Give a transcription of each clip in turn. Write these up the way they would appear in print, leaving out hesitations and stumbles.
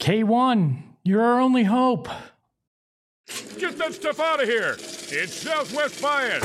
K1, you're our only hope. Get that stuff out of here. It's Southwest Bias.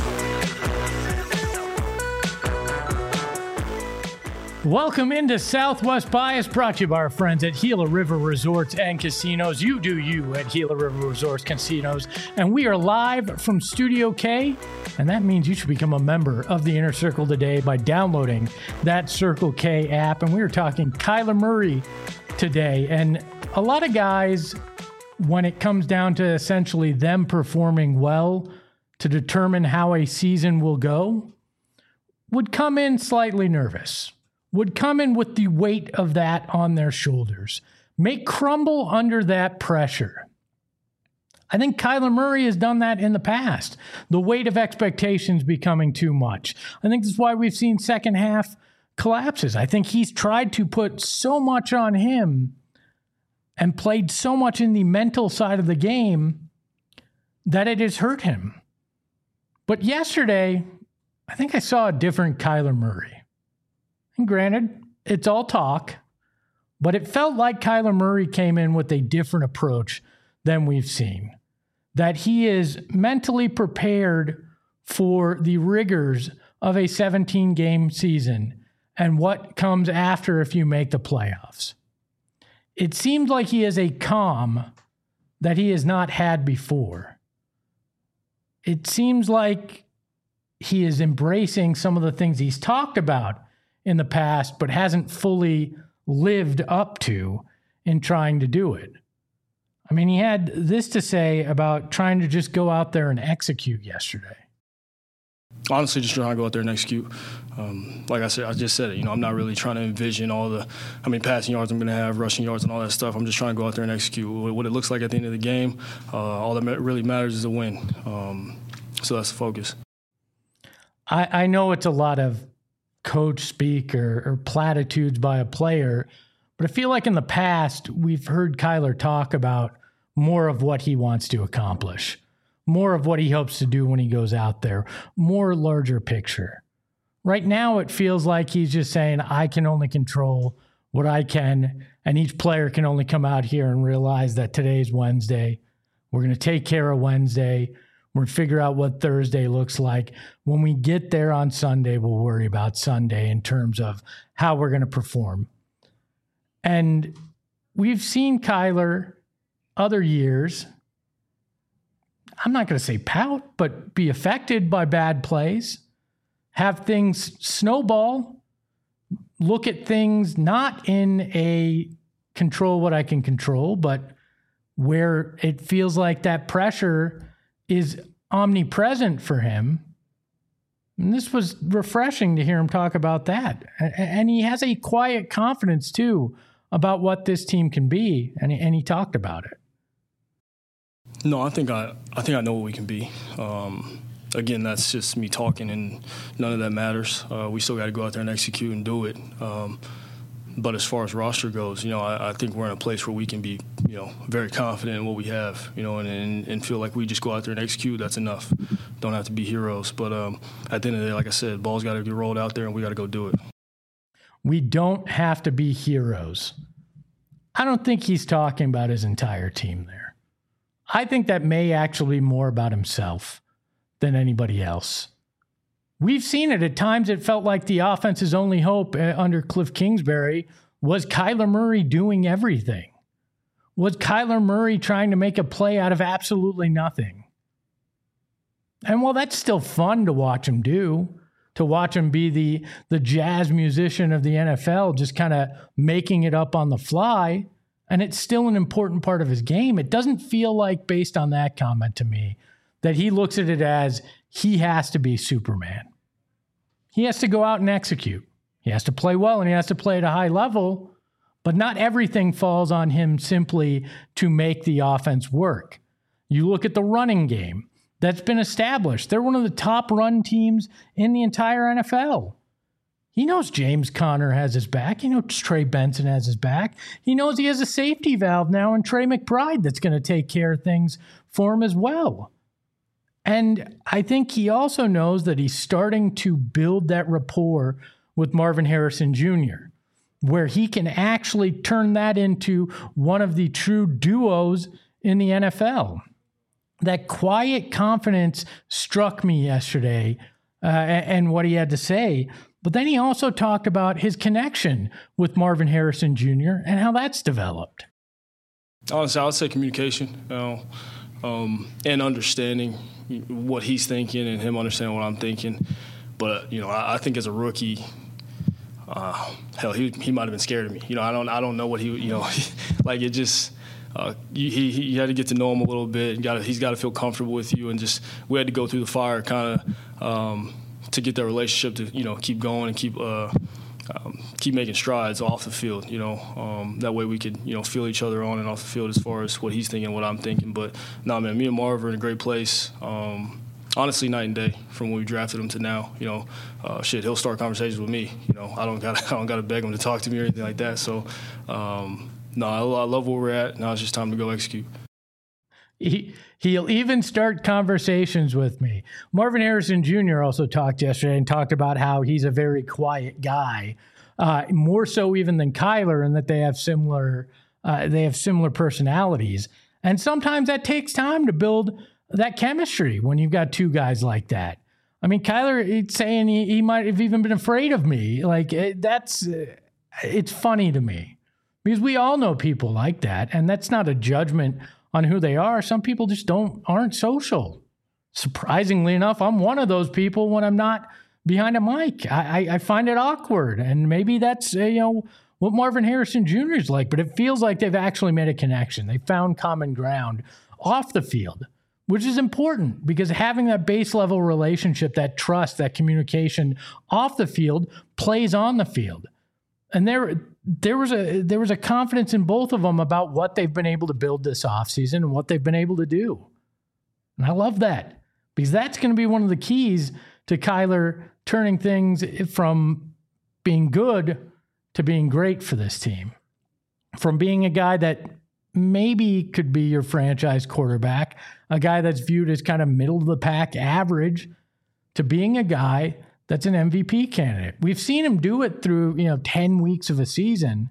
Welcome into Southwest Bias, brought to you by our friends at Gila River Resorts and Casinos. You do you at Gila River Resorts Casinos. And we are live from Studio K. And that means you should become a member of the Inner Circle today by downloading that Circle K app. And we are talking Kyler Murray today. And a lot of guys, when it comes down to essentially them performing well to determine how a season will go, would come in slightly nervous, would come in with the weight of that on their shoulders, may crumble under that pressure. I think Kyler Murray has done that in the past. The weight of expectations becoming too much. I think this is why we've seen second half collapses. I think he's tried to put so much on him and played so much in the mental side of the game that it has hurt him. But yesterday, I think I saw a different Kyler Murray. And granted, it's all talk, but it felt like Kyler Murray came in with a different approach than we've seen. That he is mentally prepared for the rigors of a 17-game season and what comes after if you make the playoffs. It seems like he has a calm that he has not had before. It seems like he is embracing some of the things he's talked about in the past, but hasn't fully lived up to in trying to do it. I mean, he had this to say about trying to just go out there and execute yesterday. Honestly, just trying to go out there and execute. Like I said, I just said it. I'm not really trying to envision how many passing yards I'm going to have, rushing yards, and all that stuff. I'm just trying to go out there and execute. What it looks like at the end of the game, all that really matters is a win. So that's the focus. I know it's a lot of coach speak or platitudes by a player, but I feel like in the past we've heard Kyler talk about more of what he wants to accomplish, more of what he hopes to do when he goes out there, more larger picture. Right now it feels like he's just saying, I can only control what I can, and each player can only come out here and realize that today's Wednesday. We're going to take care of Wednesday. We're going to figure out what Thursday looks like. When we get there on Sunday, we'll worry about Sunday in terms of how we're going to perform. And we've seen Kyler other years, I'm not going to say pout, but be affected by bad plays, have things snowball, look at things not in a control what I can control, but where it feels like that pressure is omnipresent for him. And this was refreshing to hear him talk about that. And he has a quiet confidence, too, about what this team can be, and he talked about it. No, I think I know what we can be. Again, that's just me talking, and none of that matters. We still got to go out there and execute and do it. But as far as roster goes, I think we're in a place where we can be, very confident in what we have, and feel like we just go out there and execute. That's enough. Don't have to be heroes. But at the end of the day, like I said, ball's got to be rolled out there, and we got to go do it. We don't have to be heroes. I don't think he's talking about his entire team there. I think that may actually be more about himself than anybody else. We've seen it. At times it felt like the offense's only hope under Cliff Kingsbury was Kyler Murray doing everything. Was Kyler Murray trying to make a play out of absolutely nothing? And while that's still fun to watch him do, to watch him be the jazz musician of the NFL, just kind of making it up on the fly, and it's still an important part of his game, it doesn't feel like, based on that comment to me, that he looks at it as he has to be Superman. He has to go out and execute. He has to play well, and he has to play at a high level, but not everything falls on him simply to make the offense work. You look at the running game that's been established. They're one of the top run teams in the entire NFL. He knows James Conner has his back. He knows Trey Benson has his back. He knows he has a safety valve now in Trey McBride that's going to take care of things for him as well. And I think he also knows that he's starting to build that rapport with Marvin Harrison Jr. where he can actually turn that into one of the true duos in the NFL. That quiet confidence struck me yesterday and what he had to say. But then he also talked about his connection with Marvin Harrison Jr. and how that's developed. Honestly, I would say communication, and understanding what he's thinking and him understanding what I'm thinking. But, I think as a rookie, hell, he might have been scared of me. I don't know what he, like it just you had to get to know him a little bit. He's got to feel comfortable with you, and just we had to go through the fire kind of to get that relationship to keep going and keep making strides off the field. That way we could feel each other on and off the field as far as what he's thinking, what I'm thinking. But no, man, me and Marv are in a great place. Honestly, night and day from when we drafted him to now. He'll start conversations with me. I don't gotta beg him to talk to me or anything like that. So, no, I love where we're at. Now it's just time to go execute. He'll even start conversations with me. Marvin Harrison Jr. also talked yesterday and talked about how he's a very quiet guy, more so even than Kyler, and that they have similar personalities. And sometimes that takes time to build that chemistry when you've got two guys like that. I mean, Kyler, he's saying he might have even been afraid of me. Like it's funny to me because we all know people like that, and that's not a judgment on who they are. Some people just aren't social. Surprisingly enough, I'm one of those people when I'm not behind a mic. I find it awkward, and maybe that's what Marvin Harrison Jr. is like, but it feels like they've actually made a connection. They found common ground off the field, which is important because having that base level relationship, that trust, that communication off the field plays on the field. And there was a confidence in both of them about what they've been able to build this offseason and what they've been able to do. And I love that because that's going to be one of the keys to Kyler turning things from being good to being great for this team. From being a guy that maybe could be your franchise quarterback, a guy that's viewed as kind of middle of the pack average, to being a guy that's an MVP candidate. We've seen him do it through, 10 weeks of a season,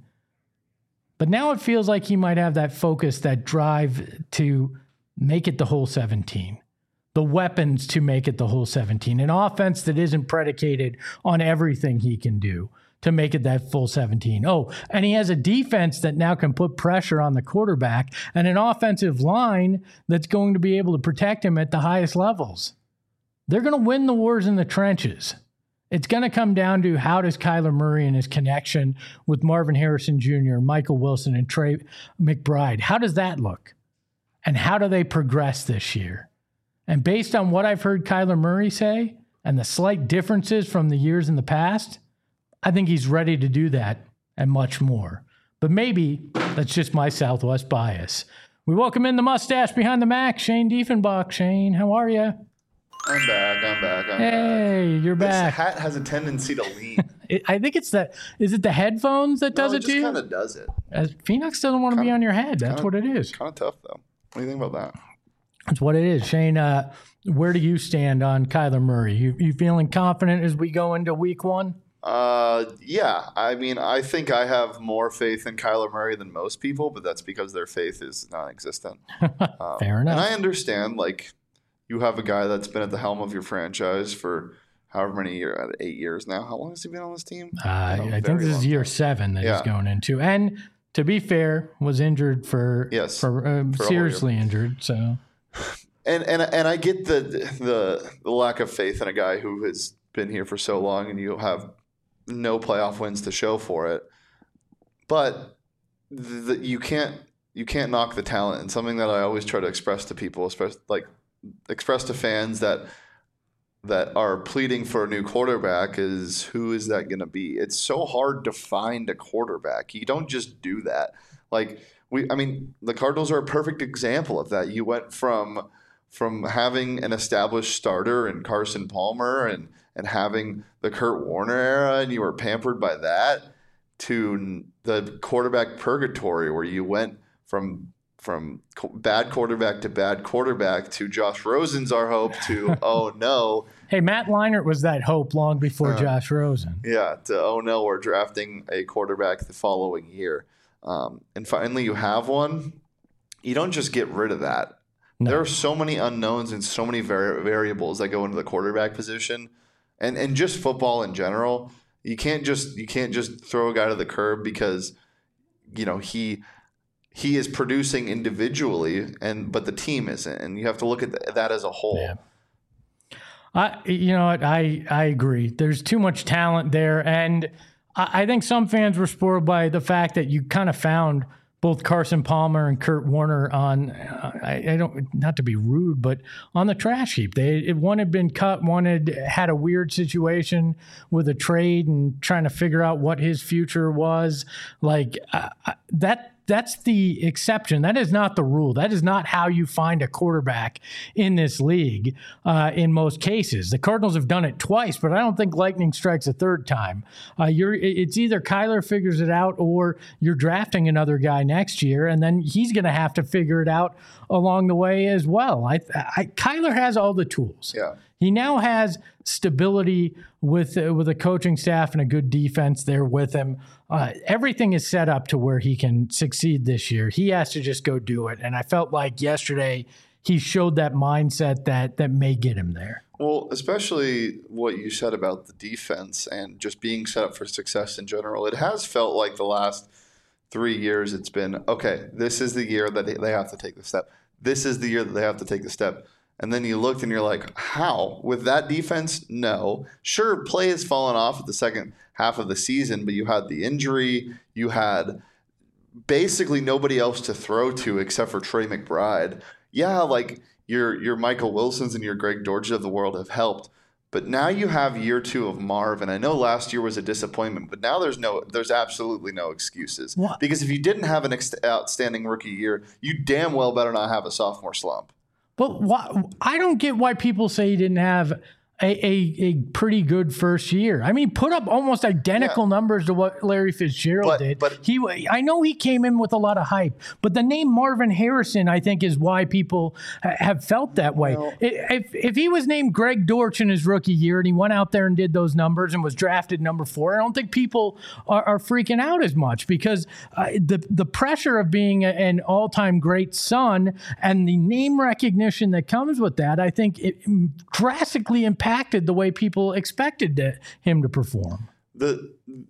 but now it feels like he might have that focus, that drive to make it the whole 17, the weapons to make it the whole 17, an offense that isn't predicated on everything he can do to make it that full 17. Oh, and he has a defense that now can put pressure on the quarterback and an offensive line that's going to be able to protect him at the highest levels. They're going to win the wars in the trenches. It's going to come down to how does Kyler Murray and his connection with Marvin Harrison Jr., Michael Wilson, and Trey McBride, how does that look? And how do they progress this year? And based on what I've heard Kyler Murray say and the slight differences from the years in the past, I think he's ready to do that and much more. But maybe that's just my Southwest bias. We welcome in the mustache behind the Mac, Shane Diefenbach. Shane, how are you? I'm back. Hey, you're back. This hat has a tendency to lean. I think it's that. Is it the headphones that does it to you? It just kind of does it. Phoenix doesn't want to be on your head. That's what it is. Kind of tough, though. What do you think about that? That's what it is. Shane, where do you stand on Kyler Murray? You feeling confident as we go into week one? Yeah. I mean, I think I have more faith in Kyler Murray than most people, but that's because their faith is non-existent. Fair enough. And I understand, you have a guy that's been at the helm of your franchise for however many years, 8 years now. How long has he been on this team? I think this is year 7 that he's going into. And to be fair, was injured for seriously injured. So, and I get the lack of faith in a guy who has been here for so long, and you have no playoff wins to show for it. But you can't knock the talent, and something that I always try to express to people, especially express to fans that are pleading for a new quarterback is, who is that going to be? It's so hard to find a quarterback. You don't just do that. The Cardinals are a perfect example of that. You went from having an established starter in Carson Palmer and having the Kurt Warner era, and you were pampered by that, to the quarterback purgatory where you went from bad quarterback to bad quarterback to Josh Rosen's our hope to oh no. Hey, Matt Leinart was that hope long before Josh Rosen. Yeah, to oh no, we're drafting a quarterback the following year. And finally you have one. You don't just get rid of that. No. There are so many unknowns and so many variables that go into the quarterback position and just football in general. You can't just throw a guy to the curb because he is producing individually but the team isn't, and you have to look at that as a whole. Yeah. I agree. There's too much talent there, and I think some fans were spoiled by the fact that you kind of found both Carson Palmer and Kurt Warner on, I don't, not to be rude, but on the trash heap. One had been cut, one had a weird situation with a trade and trying to figure out what his future was. Like that's the exception. That is not the rule. That is not how you find a quarterback in this league in most cases. The Cardinals have done it twice, but I don't think lightning strikes a third time. It's either Kyler figures it out or you're drafting another guy next year, and then he's going to have to figure it out along the way as well. Kyler has all the tools. Yeah. He now has stability with a coaching staff and a good defense there with him. Everything is set up to where he can succeed this year. He has to just go do it. And I felt like yesterday he showed that mindset that may get him there. Well, especially what you said about the defense and just being set up for success in general. It has felt like the last 3 years it's been, okay, this is the year that they have to take the step. This is the year that they have to take the step. And then you looked and you're like, how? With that defense? No. Sure, play has fallen off at the second half of the season, but you had the injury. You had basically nobody else to throw to except for Trey McBride. Yeah, like your Michael Wilsons and your Greg Dortch of the world have helped. But now you have year 2 of Marv, and I know last year was a disappointment, but now there's absolutely no excuses. What? Because if you didn't have an outstanding rookie year, you damn well better not have a sophomore slump. But I don't get why people say he didn't have a pretty good first year. I mean, put up almost identical numbers to what Larry Fitzgerald did. But I know he came in with a lot of hype, but the name Marvin Harrison, I think, is why people have felt that way. Well, if he was named Greg Dortch in his rookie year and he went out there and did those numbers and was drafted number 4, I don't think people are freaking out as much because the pressure of being an all-time great son and the name recognition that comes with that, I think it drastically impacted the way people expected him to perform. The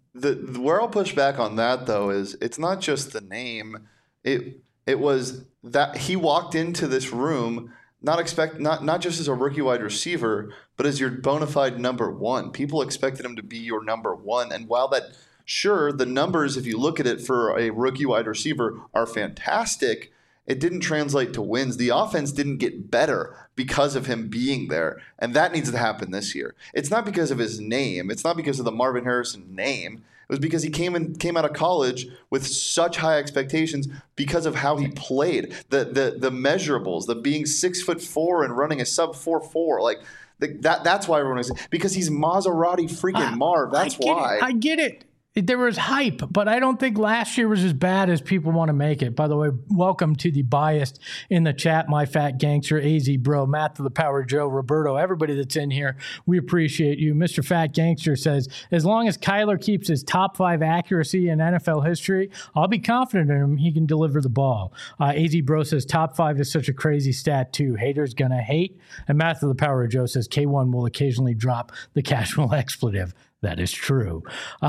where I'll push back on that though is it's not just the name. It was that he walked into this room not just as a rookie wide receiver, but as your bona fide number 1. People expected him to be your number 1, and while that sure the numbers, if you look at it for a rookie wide receiver, are fantastic, it didn't translate to wins. The offense didn't get better because of him being there, and that needs to happen this year. It's not because of his name. It's not because of the Marvin Harrison name. It was because he came out of college with such high expectations because of how he played. The measurables, the being 6'4" and running a sub 4.4, like that's why everyone is, because he's Maserati freaking Marv. That's why. I get it. There was hype, but I don't think last year was as bad as people want to make it. By the way, welcome to the biased in the chat, my fat gangster, AZ Bro, Matt to the Power Joe, Roberto, everybody that's in here. We appreciate you. Mr. Fat Gangster says, as long as Kyler keeps his top 5 accuracy in NFL history, I'll be confident in him. He can deliver the ball. AZ Bro says, top 5 is such a crazy stat too. Haters gonna hate. And Matt to the Power Joe says, K1 will occasionally drop the casual expletive. That is true.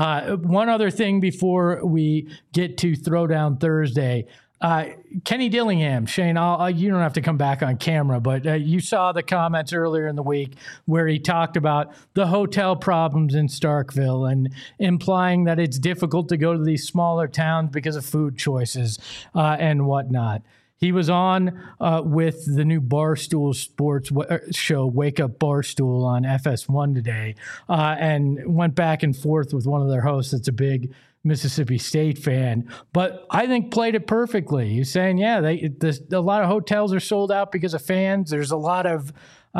One other thing before we get to Throwdown Thursday. Kenny Dillingham, Shane, you don't have to come back on camera, but you saw the comments earlier in the week where he talked about the hotel problems in Starkville and implying that it's difficult to go to these smaller towns because of food choices and whatnot. He was on with the new Barstool Sports show, Wake Up Barstool, on FS1 today, and went back and forth with one of their hosts that's a big Mississippi State fan, but I think played it perfectly. He's saying, yeah, a lot of hotels are sold out because of fans. There's a lot of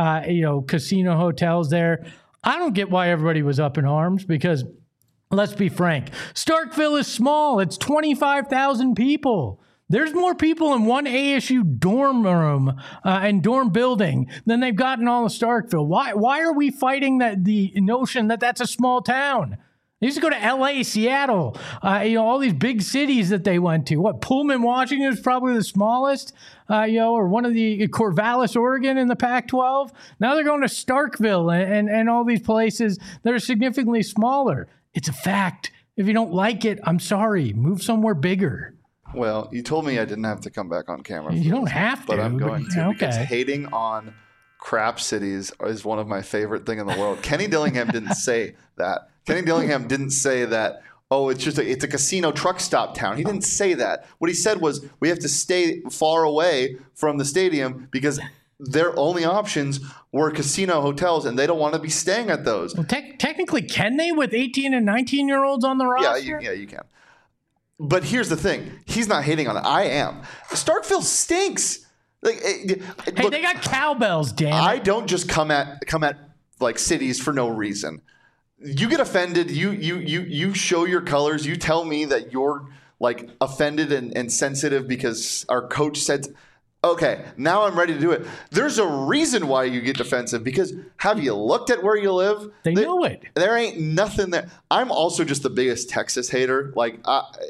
casino hotels there. I don't get why everybody was up in arms because, let's be frank, Starkville is small. It's 25,000 people. There's more people in one ASU dorm room and dorm building than they've got in all of Starkville. Why are we fighting the notion that that's a small town? They used to go to LA, Seattle, all these big cities that they went to. What, Pullman, Washington is probably the smallest, or one of the Corvallis, Oregon in the Pac-12. Now they're going to Starkville and all these places that are significantly smaller. It's a fact. If you don't like it, I'm sorry. Move somewhere bigger. Well, you told me I didn't have to come back on camera. You don't have to. But I'm going to, okay. Because hating on crap cities is one of my favorite things in the world. Kenny Dillingham didn't say that. Kenny Dillingham didn't say that, it's a casino truck stop town. He didn't say that. What he said was we have to stay far away from the stadium because their only options were casino hotels, and they don't want to be staying at those. Well, technically, can they with 18 and 19-year-olds on the roster? Yeah, you can. But here's the thing. He's not hating on it. I am. Starkville stinks. Look, they got cowbells, damn it. I don't just come at like cities for no reason. You get offended. You show your colors. You tell me that you're like offended and sensitive because our coach said, okay, now I'm ready to do it. There's a reason why you get defensive because have you looked at where you live? They know it. There ain't nothing there. I'm also just the biggest Texas hater. Like,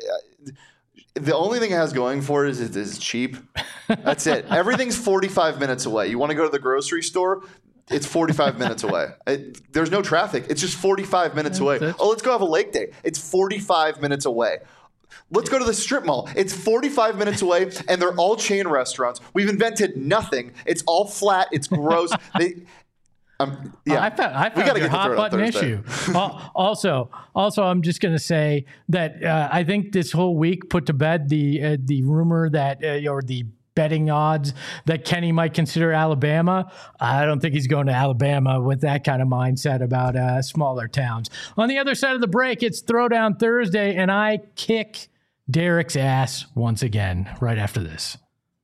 the only thing it has going for it is it's cheap. That's it. Everything's 45 minutes away. You want to go to the grocery store? It's 45 minutes away. There's no traffic. It's just 45 minutes away. Oh, let's go have a lake day. It's 45 minutes away. Let's go to the strip mall. It's 45 minutes away, and they're all chain restaurants. We've invented nothing. It's all flat. It's gross. I found we got to get hot button issue. Also, I'm just going to say that I think this whole week put to bed the rumor that or the betting odds that Kenny might consider Alabama. I don't think he's going to Alabama with that kind of mindset about smaller towns. On the other side of the break, it's Throwdown Thursday, and I kick Derek's ass once again right after this.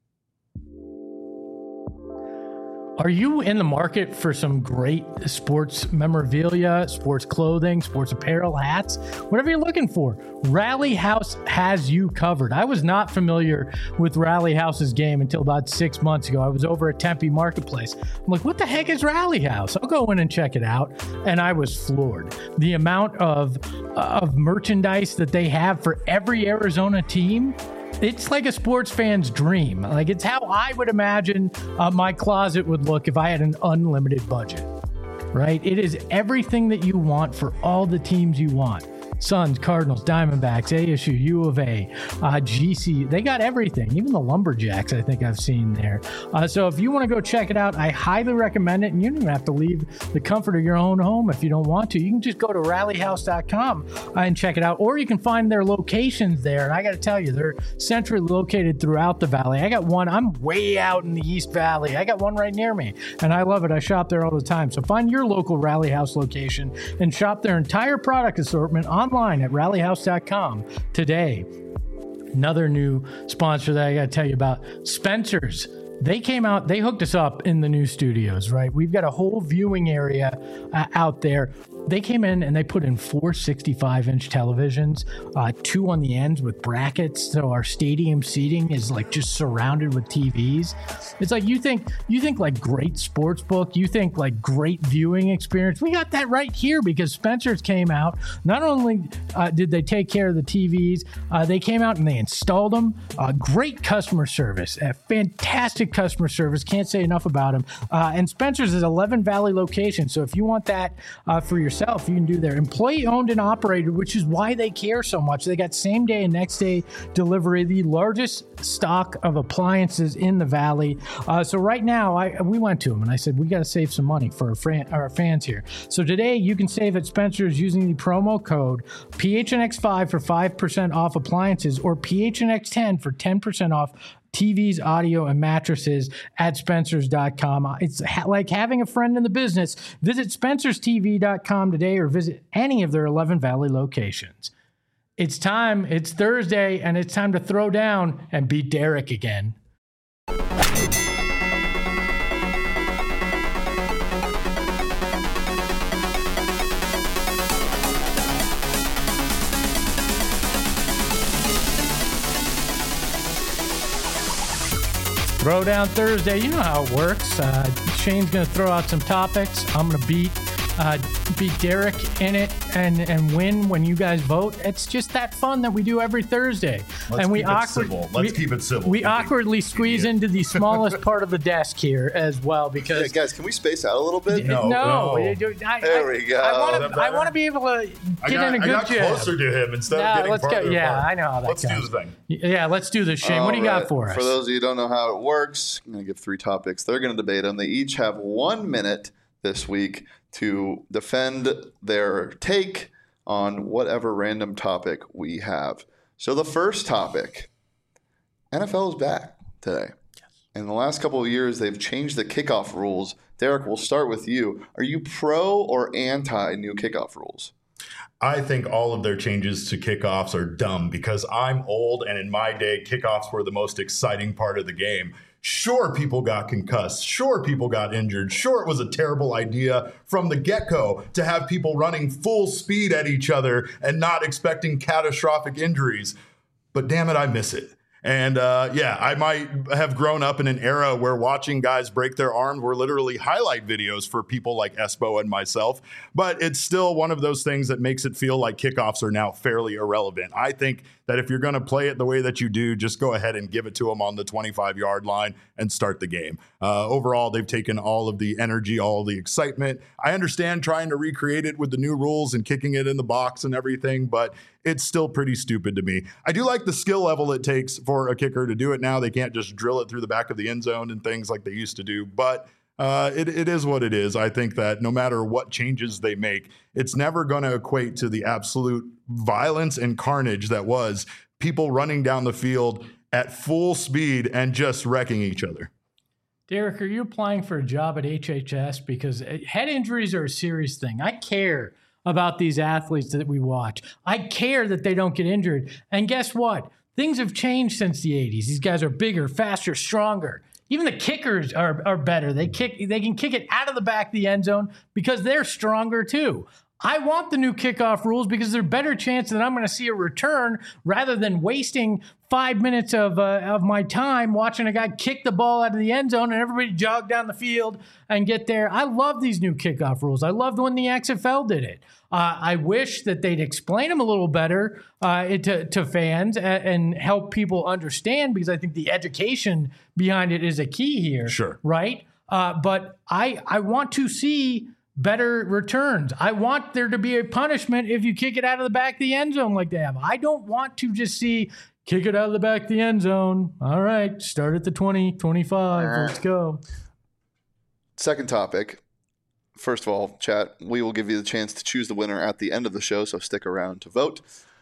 Are you in the market for some great sports memorabilia, sports clothing, sports apparel, hats, whatever you're looking for? Rally House has you covered. I was not familiar with Rally House's game until about 6 months ago. I was over at Tempe Marketplace. I'm like, what the heck is Rally House? I'll go in and check it out. And I was floored. The amount of merchandise that they have for every Arizona team. It's like a sports fan's dream. Like, it's how I would imagine my closet would look if I had an unlimited budget, right? It is everything that you want for all the teams you want. Suns, Cardinals, Diamondbacks, ASU, U of A, GC. They got everything. Even the Lumberjacks, I think I've seen there. So if you want to go check it out, I highly recommend it. And you don't even have to leave the comfort of your own home if you don't want to. You can just go to rallyhouse.com and check it out. Or you can find their locations there. And I got to tell you, they're centrally located throughout the valley. I got one. I'm way out in the East Valley. I got one right near me. And I love it. I shop there all the time. So find your local Rally House location and shop their entire product assortment online at rallyhouse.com today. Another new sponsor that I got to tell you about, Spencer's. They came out, they hooked us up in the new studios, right? We've got a whole viewing area out there. They came in and they put in 4 65-inch televisions, 2 on the ends with brackets. So our stadium seating is like just surrounded with TVs. It's like you think like great sports book, you think like great viewing experience. We got that right here because Spencer's came out. Not only did they take care of the TVs, they came out and they installed them. Great customer service, fantastic customer service. Can't say enough about them. And Spencer's is 11 Valley location. So if you want that for yourself, you can do there. Employee owned and operated, which is why they care so much. They got same day and next day delivery, the largest stock of appliances in the Valley. So right now, we went to them and I said, we got to save some money for our fans here. So today you can save at Spencer's using the promo code PHNX5 for 5% off appliances or PHNX10 for 10% off TVs, audio, and mattresses at Spencers.com. It's like having a friend in the business. Visit SpencersTV.com today or visit any of their 11 Valley locations. It's time. It's Thursday, and it's time to throw down and beat Derek again. Throwdown Thursday. You know how it works. Shane's going to throw out some topics. I'm going to beat Derek in it and win when you guys vote. It's just that fun that we do every Thursday. Let's keep it civil. We awkwardly squeeze into the smallest part of the desk here as well because guys, can we space out a little bit? No. There we go. I want to be able to get in a good I got closer to him instead of getting farther apart. Yeah, I know how that goes. Let's do the thing. Yeah, let's do this, Shane. What do you got for us? For those of you who don't know how it works, I'm going to give 3 topics. They're going to debate them. They each have 1 minute this week to defend their take on whatever random topic we have. So the first topic, NFL is back today. Yes. In the last couple of years, they've changed the kickoff rules. Derek, we'll start with you. Are you pro or anti new kickoff rules? I think all of their changes to kickoffs are dumb because I'm old, and in my day, kickoffs were the most exciting part of the game. Sure, people got concussed. Sure, people got injured. Sure, it was a terrible idea from the get-go to have people running full speed at each other and not expecting catastrophic injuries. But damn it, I miss it. And I might have grown up in an era where watching guys break their arms were literally highlight videos for people like Espo and myself. But it's still one of those things that makes it feel like kickoffs are now fairly irrelevant. I think that if you're going to play it the way that you do, just go ahead and give it to them on the 25-yard line and start the game. Overall, they've taken all of the energy, all of the excitement. I understand trying to recreate it with the new rules and kicking it in the box and everything, but it's still pretty stupid to me. I do like the skill level it takes for a kicker to do it now. They can't just drill it through the back of the end zone and things like they used to do, but it is what it is. I think that no matter what changes they make, it's never going to equate to the absolute violence and carnage that was people running down the field at full speed and just wrecking each other. Derek, are you applying for a job at HHS? Because head injuries are a serious thing. I care about these athletes that we watch. I care that they don't get injured. And guess what? Things have changed since the 80s. These guys are bigger, faster, stronger. Even the kickers are better. They can kick it out of the back of the end zone because they're stronger too. I want the new kickoff rules because there's a better chance that I'm going to see a return rather than wasting 5 minutes of my time watching a guy kick the ball out of the end zone and everybody jog down the field and get there. I love these new kickoff rules. I loved when the XFL did it. I wish that they'd explain them a little better to fans and help people understand, because I think the education behind it is a key here. Sure. Right? But I want to see better returns. I want there to be a punishment if you kick it out of the back of the end zone like they have. I don't want to just see kick it out of the back of the end zone. All right, start at the 20, 25. Let's go. Second topic. First of all, chat, we will give you the chance to choose the winner at the end of the show, so stick around to vote.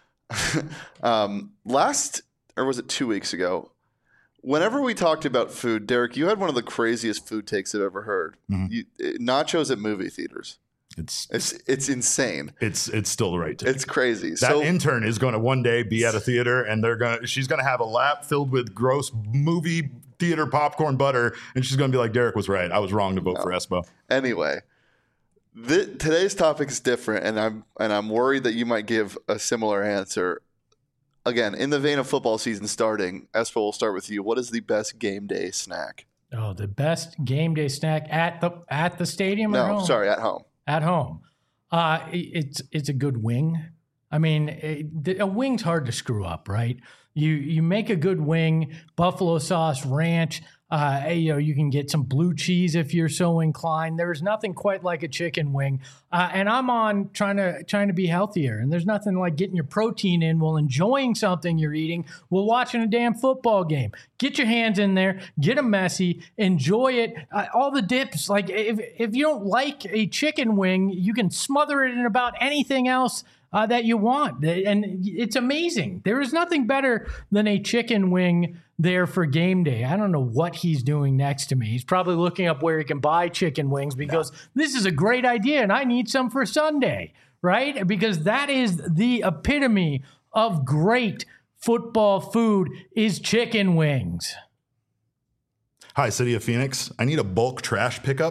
Or was it 2 weeks ago? Whenever we talked about food, Derek, you had one of the craziest food takes I've ever heard. Mm-hmm. Nachos at movie theaters. It's insane. It's still the right take. It's crazy. That intern is going to one day be at a theater, and she's going to have a lap filled with gross movie theater popcorn butter, and she's going to be like, Derek was right. I was wrong to vote for Espo. Anyway, today's topic is different, and I'm worried that you might give a similar answer. Again, in the vein of football season starting, Espo, we'll start with you. What is the best game day snack? Oh, the best game day snack at the stadium? No, sorry, at home. At home. It's a good wing. I mean, a wing's hard to screw up, right? You make a good wing, buffalo sauce, ranch. You can get some blue cheese if you're so inclined. There's nothing quite like a chicken wing. And I'm on trying to be healthier. And there's nothing like getting your protein in while enjoying something you're eating while watching a damn football game. Get your hands in there, get them messy, enjoy it. All the dips, like if you don't like a chicken wing, you can smother it in about anything else that you want. And it's amazing. There is nothing better than a chicken wing there for game day. I don't know what he's doing next to me. He's probably looking up where he can buy chicken wings because this is a great idea and I need some for Sunday, right? Because that is the epitome of great football food is chicken wings. Hi, City of Phoenix. I need a bulk trash pickup.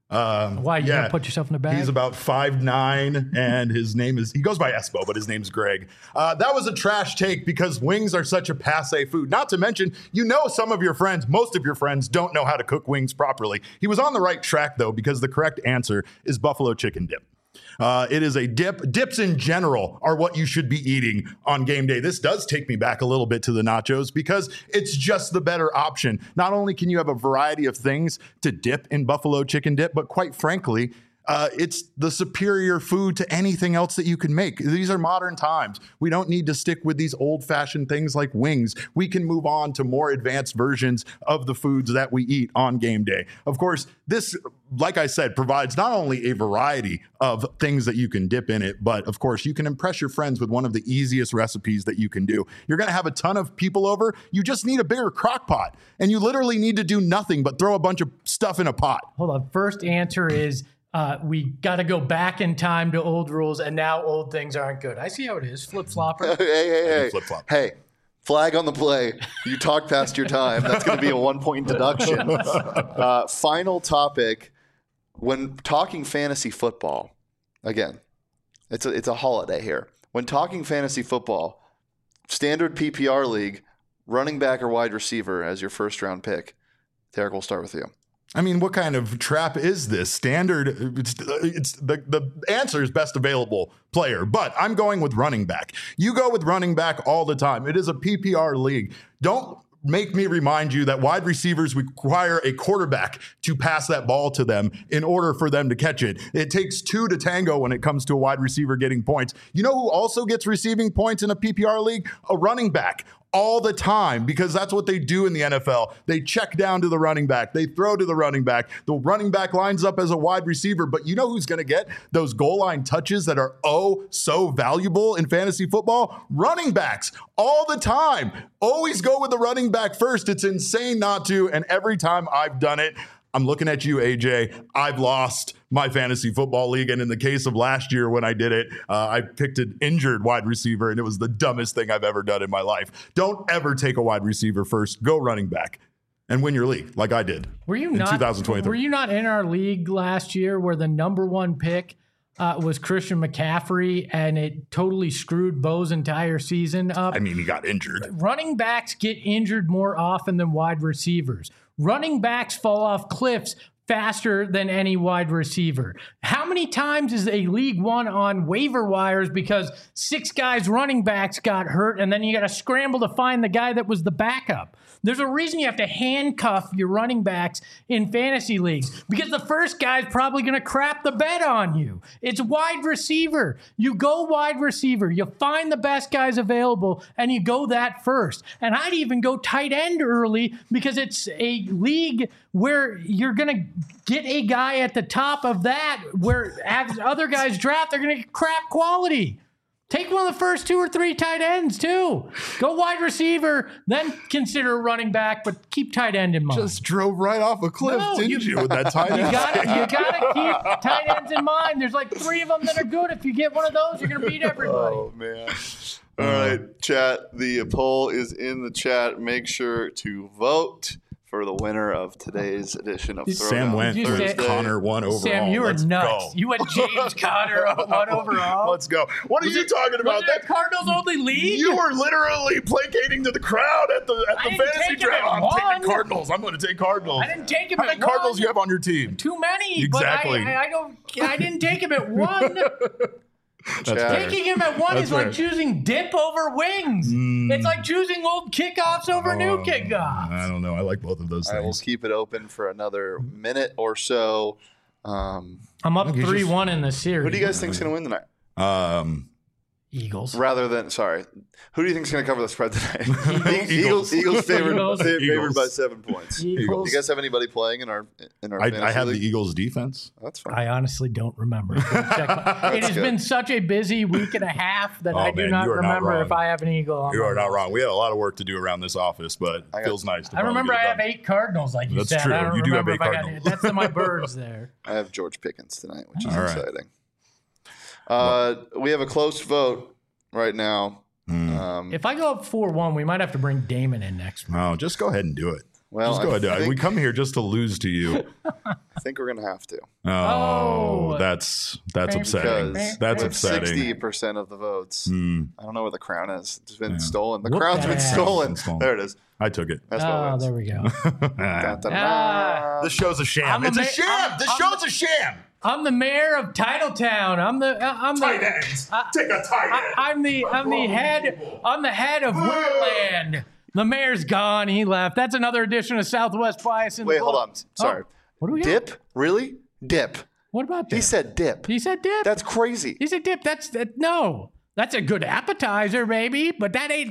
Why, you gonna put yourself in the bag? He's about 5'9", and he goes by Espo, but his name's Greg. That was a trash take because wings are such a passé food. Not to mention, some of your friends, most of your friends, don't know how to cook wings properly. He was on the right track, though, because the correct answer is buffalo chicken dip. It is a dip. Dips in general are what you should be eating on game day. This does take me back a little bit to the nachos because it's just the better option. Not only can you have a variety of things to dip in buffalo chicken dip, but quite frankly, it's the superior food to anything else that you can make. These are modern times. We don't need to stick with these old-fashioned things like wings. We can move on to more advanced versions of the foods that we eat on game day. Of course, this, like I said, provides not only a variety of things that you can dip in it, but of course, you can impress your friends with one of the easiest recipes that you can do. You're going to have a ton of people over. You just need a bigger crock pot, and you literally need to do nothing but throw a bunch of stuff in a pot. Hold on. First answer is we got to go back in time to old rules, and now old things aren't good. I see how it is. Flip-flopper. Hey. Flip-flop. Hey, flag on the play. You talked past your time. That's going to be a 1-point deduction. Final topic. When talking fantasy football, again, it's a holiday here. When talking fantasy football, standard PPR league, running back or wide receiver as your first-round pick. Derek, we'll start with you. I mean, what kind of trap is this? Standard, it's the answer is best available player, but I'm going with running back. You go with running back all the time. It is a PPR league. Don't make me remind you that wide receivers require a quarterback to pass that ball to them in order for them to catch it. It takes two to tango when it comes to a wide receiver getting points. You know who also gets receiving points in a PPR league? A running back. All the time, because that's what they do in the NFL. They check down to the running back. They throw to the running back. The running back lines up as a wide receiver, but you know who's going to get those goal line touches that are so valuable in fantasy football? Running backs all the time. Always go with the running back first. It's insane not to, and every time I've done it, I'm looking at you, AJ. I've lost my fantasy football league. And in the case of last year when I did it, I picked an injured wide receiver, and it was the dumbest thing I've ever done in my life. Don't ever take a wide receiver first. Go running back and win your league like I did in 2023. Were you not in our league last year where the number one pick was Christian McCaffrey, and it totally screwed Bo's entire season up? I mean, he got injured. Running backs get injured more often than wide receivers. Running backs fall off cliffs faster than any wide receiver. How many times is a league won on waiver wires because 6 guys running backs got hurt, and then you got to scramble to find the guy that was the backup? There's a reason you have to handcuff your running backs in fantasy leagues, because the first guy's probably going to crap the bed on you. It's wide receiver. You go wide receiver. You find the best guys available, and you go that first. And I'd even go tight end early, because it's a league where you're going to get a guy at the top of that, where as other guys draft, they're going to get crap quality. Take one of the first 2 or 3 tight ends, too. Go wide receiver, then consider running back, but keep tight end in mind. Just drove right off a cliff, didn't you, with that tight end? You gotta keep tight ends in mind. There's like 3 of them that are good. If you get one of those, you're going to beat everybody. Oh, man. All right, chat. The poll is in the chat. Make sure to vote for the winner of today's edition of Sam went for Connor 1 overall. Sam, you were nuts. You went James Conner 1 overall. Let's go. What are you talking about? Was it Cardinals only league? You were literally placating to the crowd at the fantasy draft. I'm taking Cardinals. I'm going to take Cardinals. I didn't take him How many Cardinals you have on your team? Too many. Exactly. But I didn't take him at 1. Taking him at 1 is like choosing dip over wings. It's like choosing old kickoffs over new kickoffs. I don't know. I like both of those things. I will keep it open for another minute or so. I'm up 3-1 in the series. Who do you guys think is going to win tonight? Eagles. Who do you think is going to cover the spread tonight? Eagles favored by 7 points. Eagles. Do you guys have anybody playing in our I have league? the Eagles defense. That's fine. I honestly don't remember. It has been such a busy week and a half that I do not remember if I have an Eagle on. You are not wrong. We had a lot of work to do around this office, but it feels nice to I remember I have 8 Cardinals, like you said. That's true. I don't You do have remember 8 if Cardinals. That's in my birds there. I have George Pickens tonight, which is All right. exciting. We have a close vote right now. If I go up 4-1, we might have to bring Damon in next week. No, just go ahead and do it. Well, just go ahead. We come here just to lose to you. I think we're gonna have to. Oh, that's upsetting. Because That's with upsetting. 60% of the votes. I don't know where the crown is. It's been stolen. The Whoop crown's that been ass. stolen. Stolen. There it is. I took it. That's what Oh, wins. there we go. Da-da-da. This show's a sham. It's a sham. This show's a sham. I'm the mayor of Titletown. I'm the ends. Take a tight end. I'm the head of Woodland. The mayor's gone. He left. That's another edition of Southwest Bias. Wait, hold on. Sorry. What do we got? Dip? Really? Dip. What about dip? He said dip. He said dip. That's crazy. He said dip. No. That's a good appetizer, maybe, but that ain't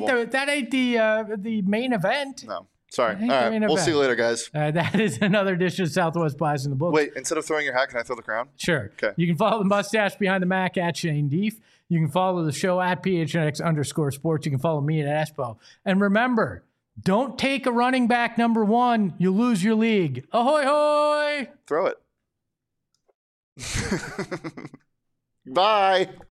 the main event. No. Sorry. I hate All doing right. a We'll bet. see you later, guys. That is another edition of Southwest Bias in the book. Wait, instead of throwing your hat, can I throw the crown? Sure. Okay. You can follow the mustache behind the Mac at Shane Deef. You can follow the show at PHNX_sports. You can follow me at Espo. And remember, don't take a running back number 1. You lose your league. Ahoy, hoy! Throw it. Bye.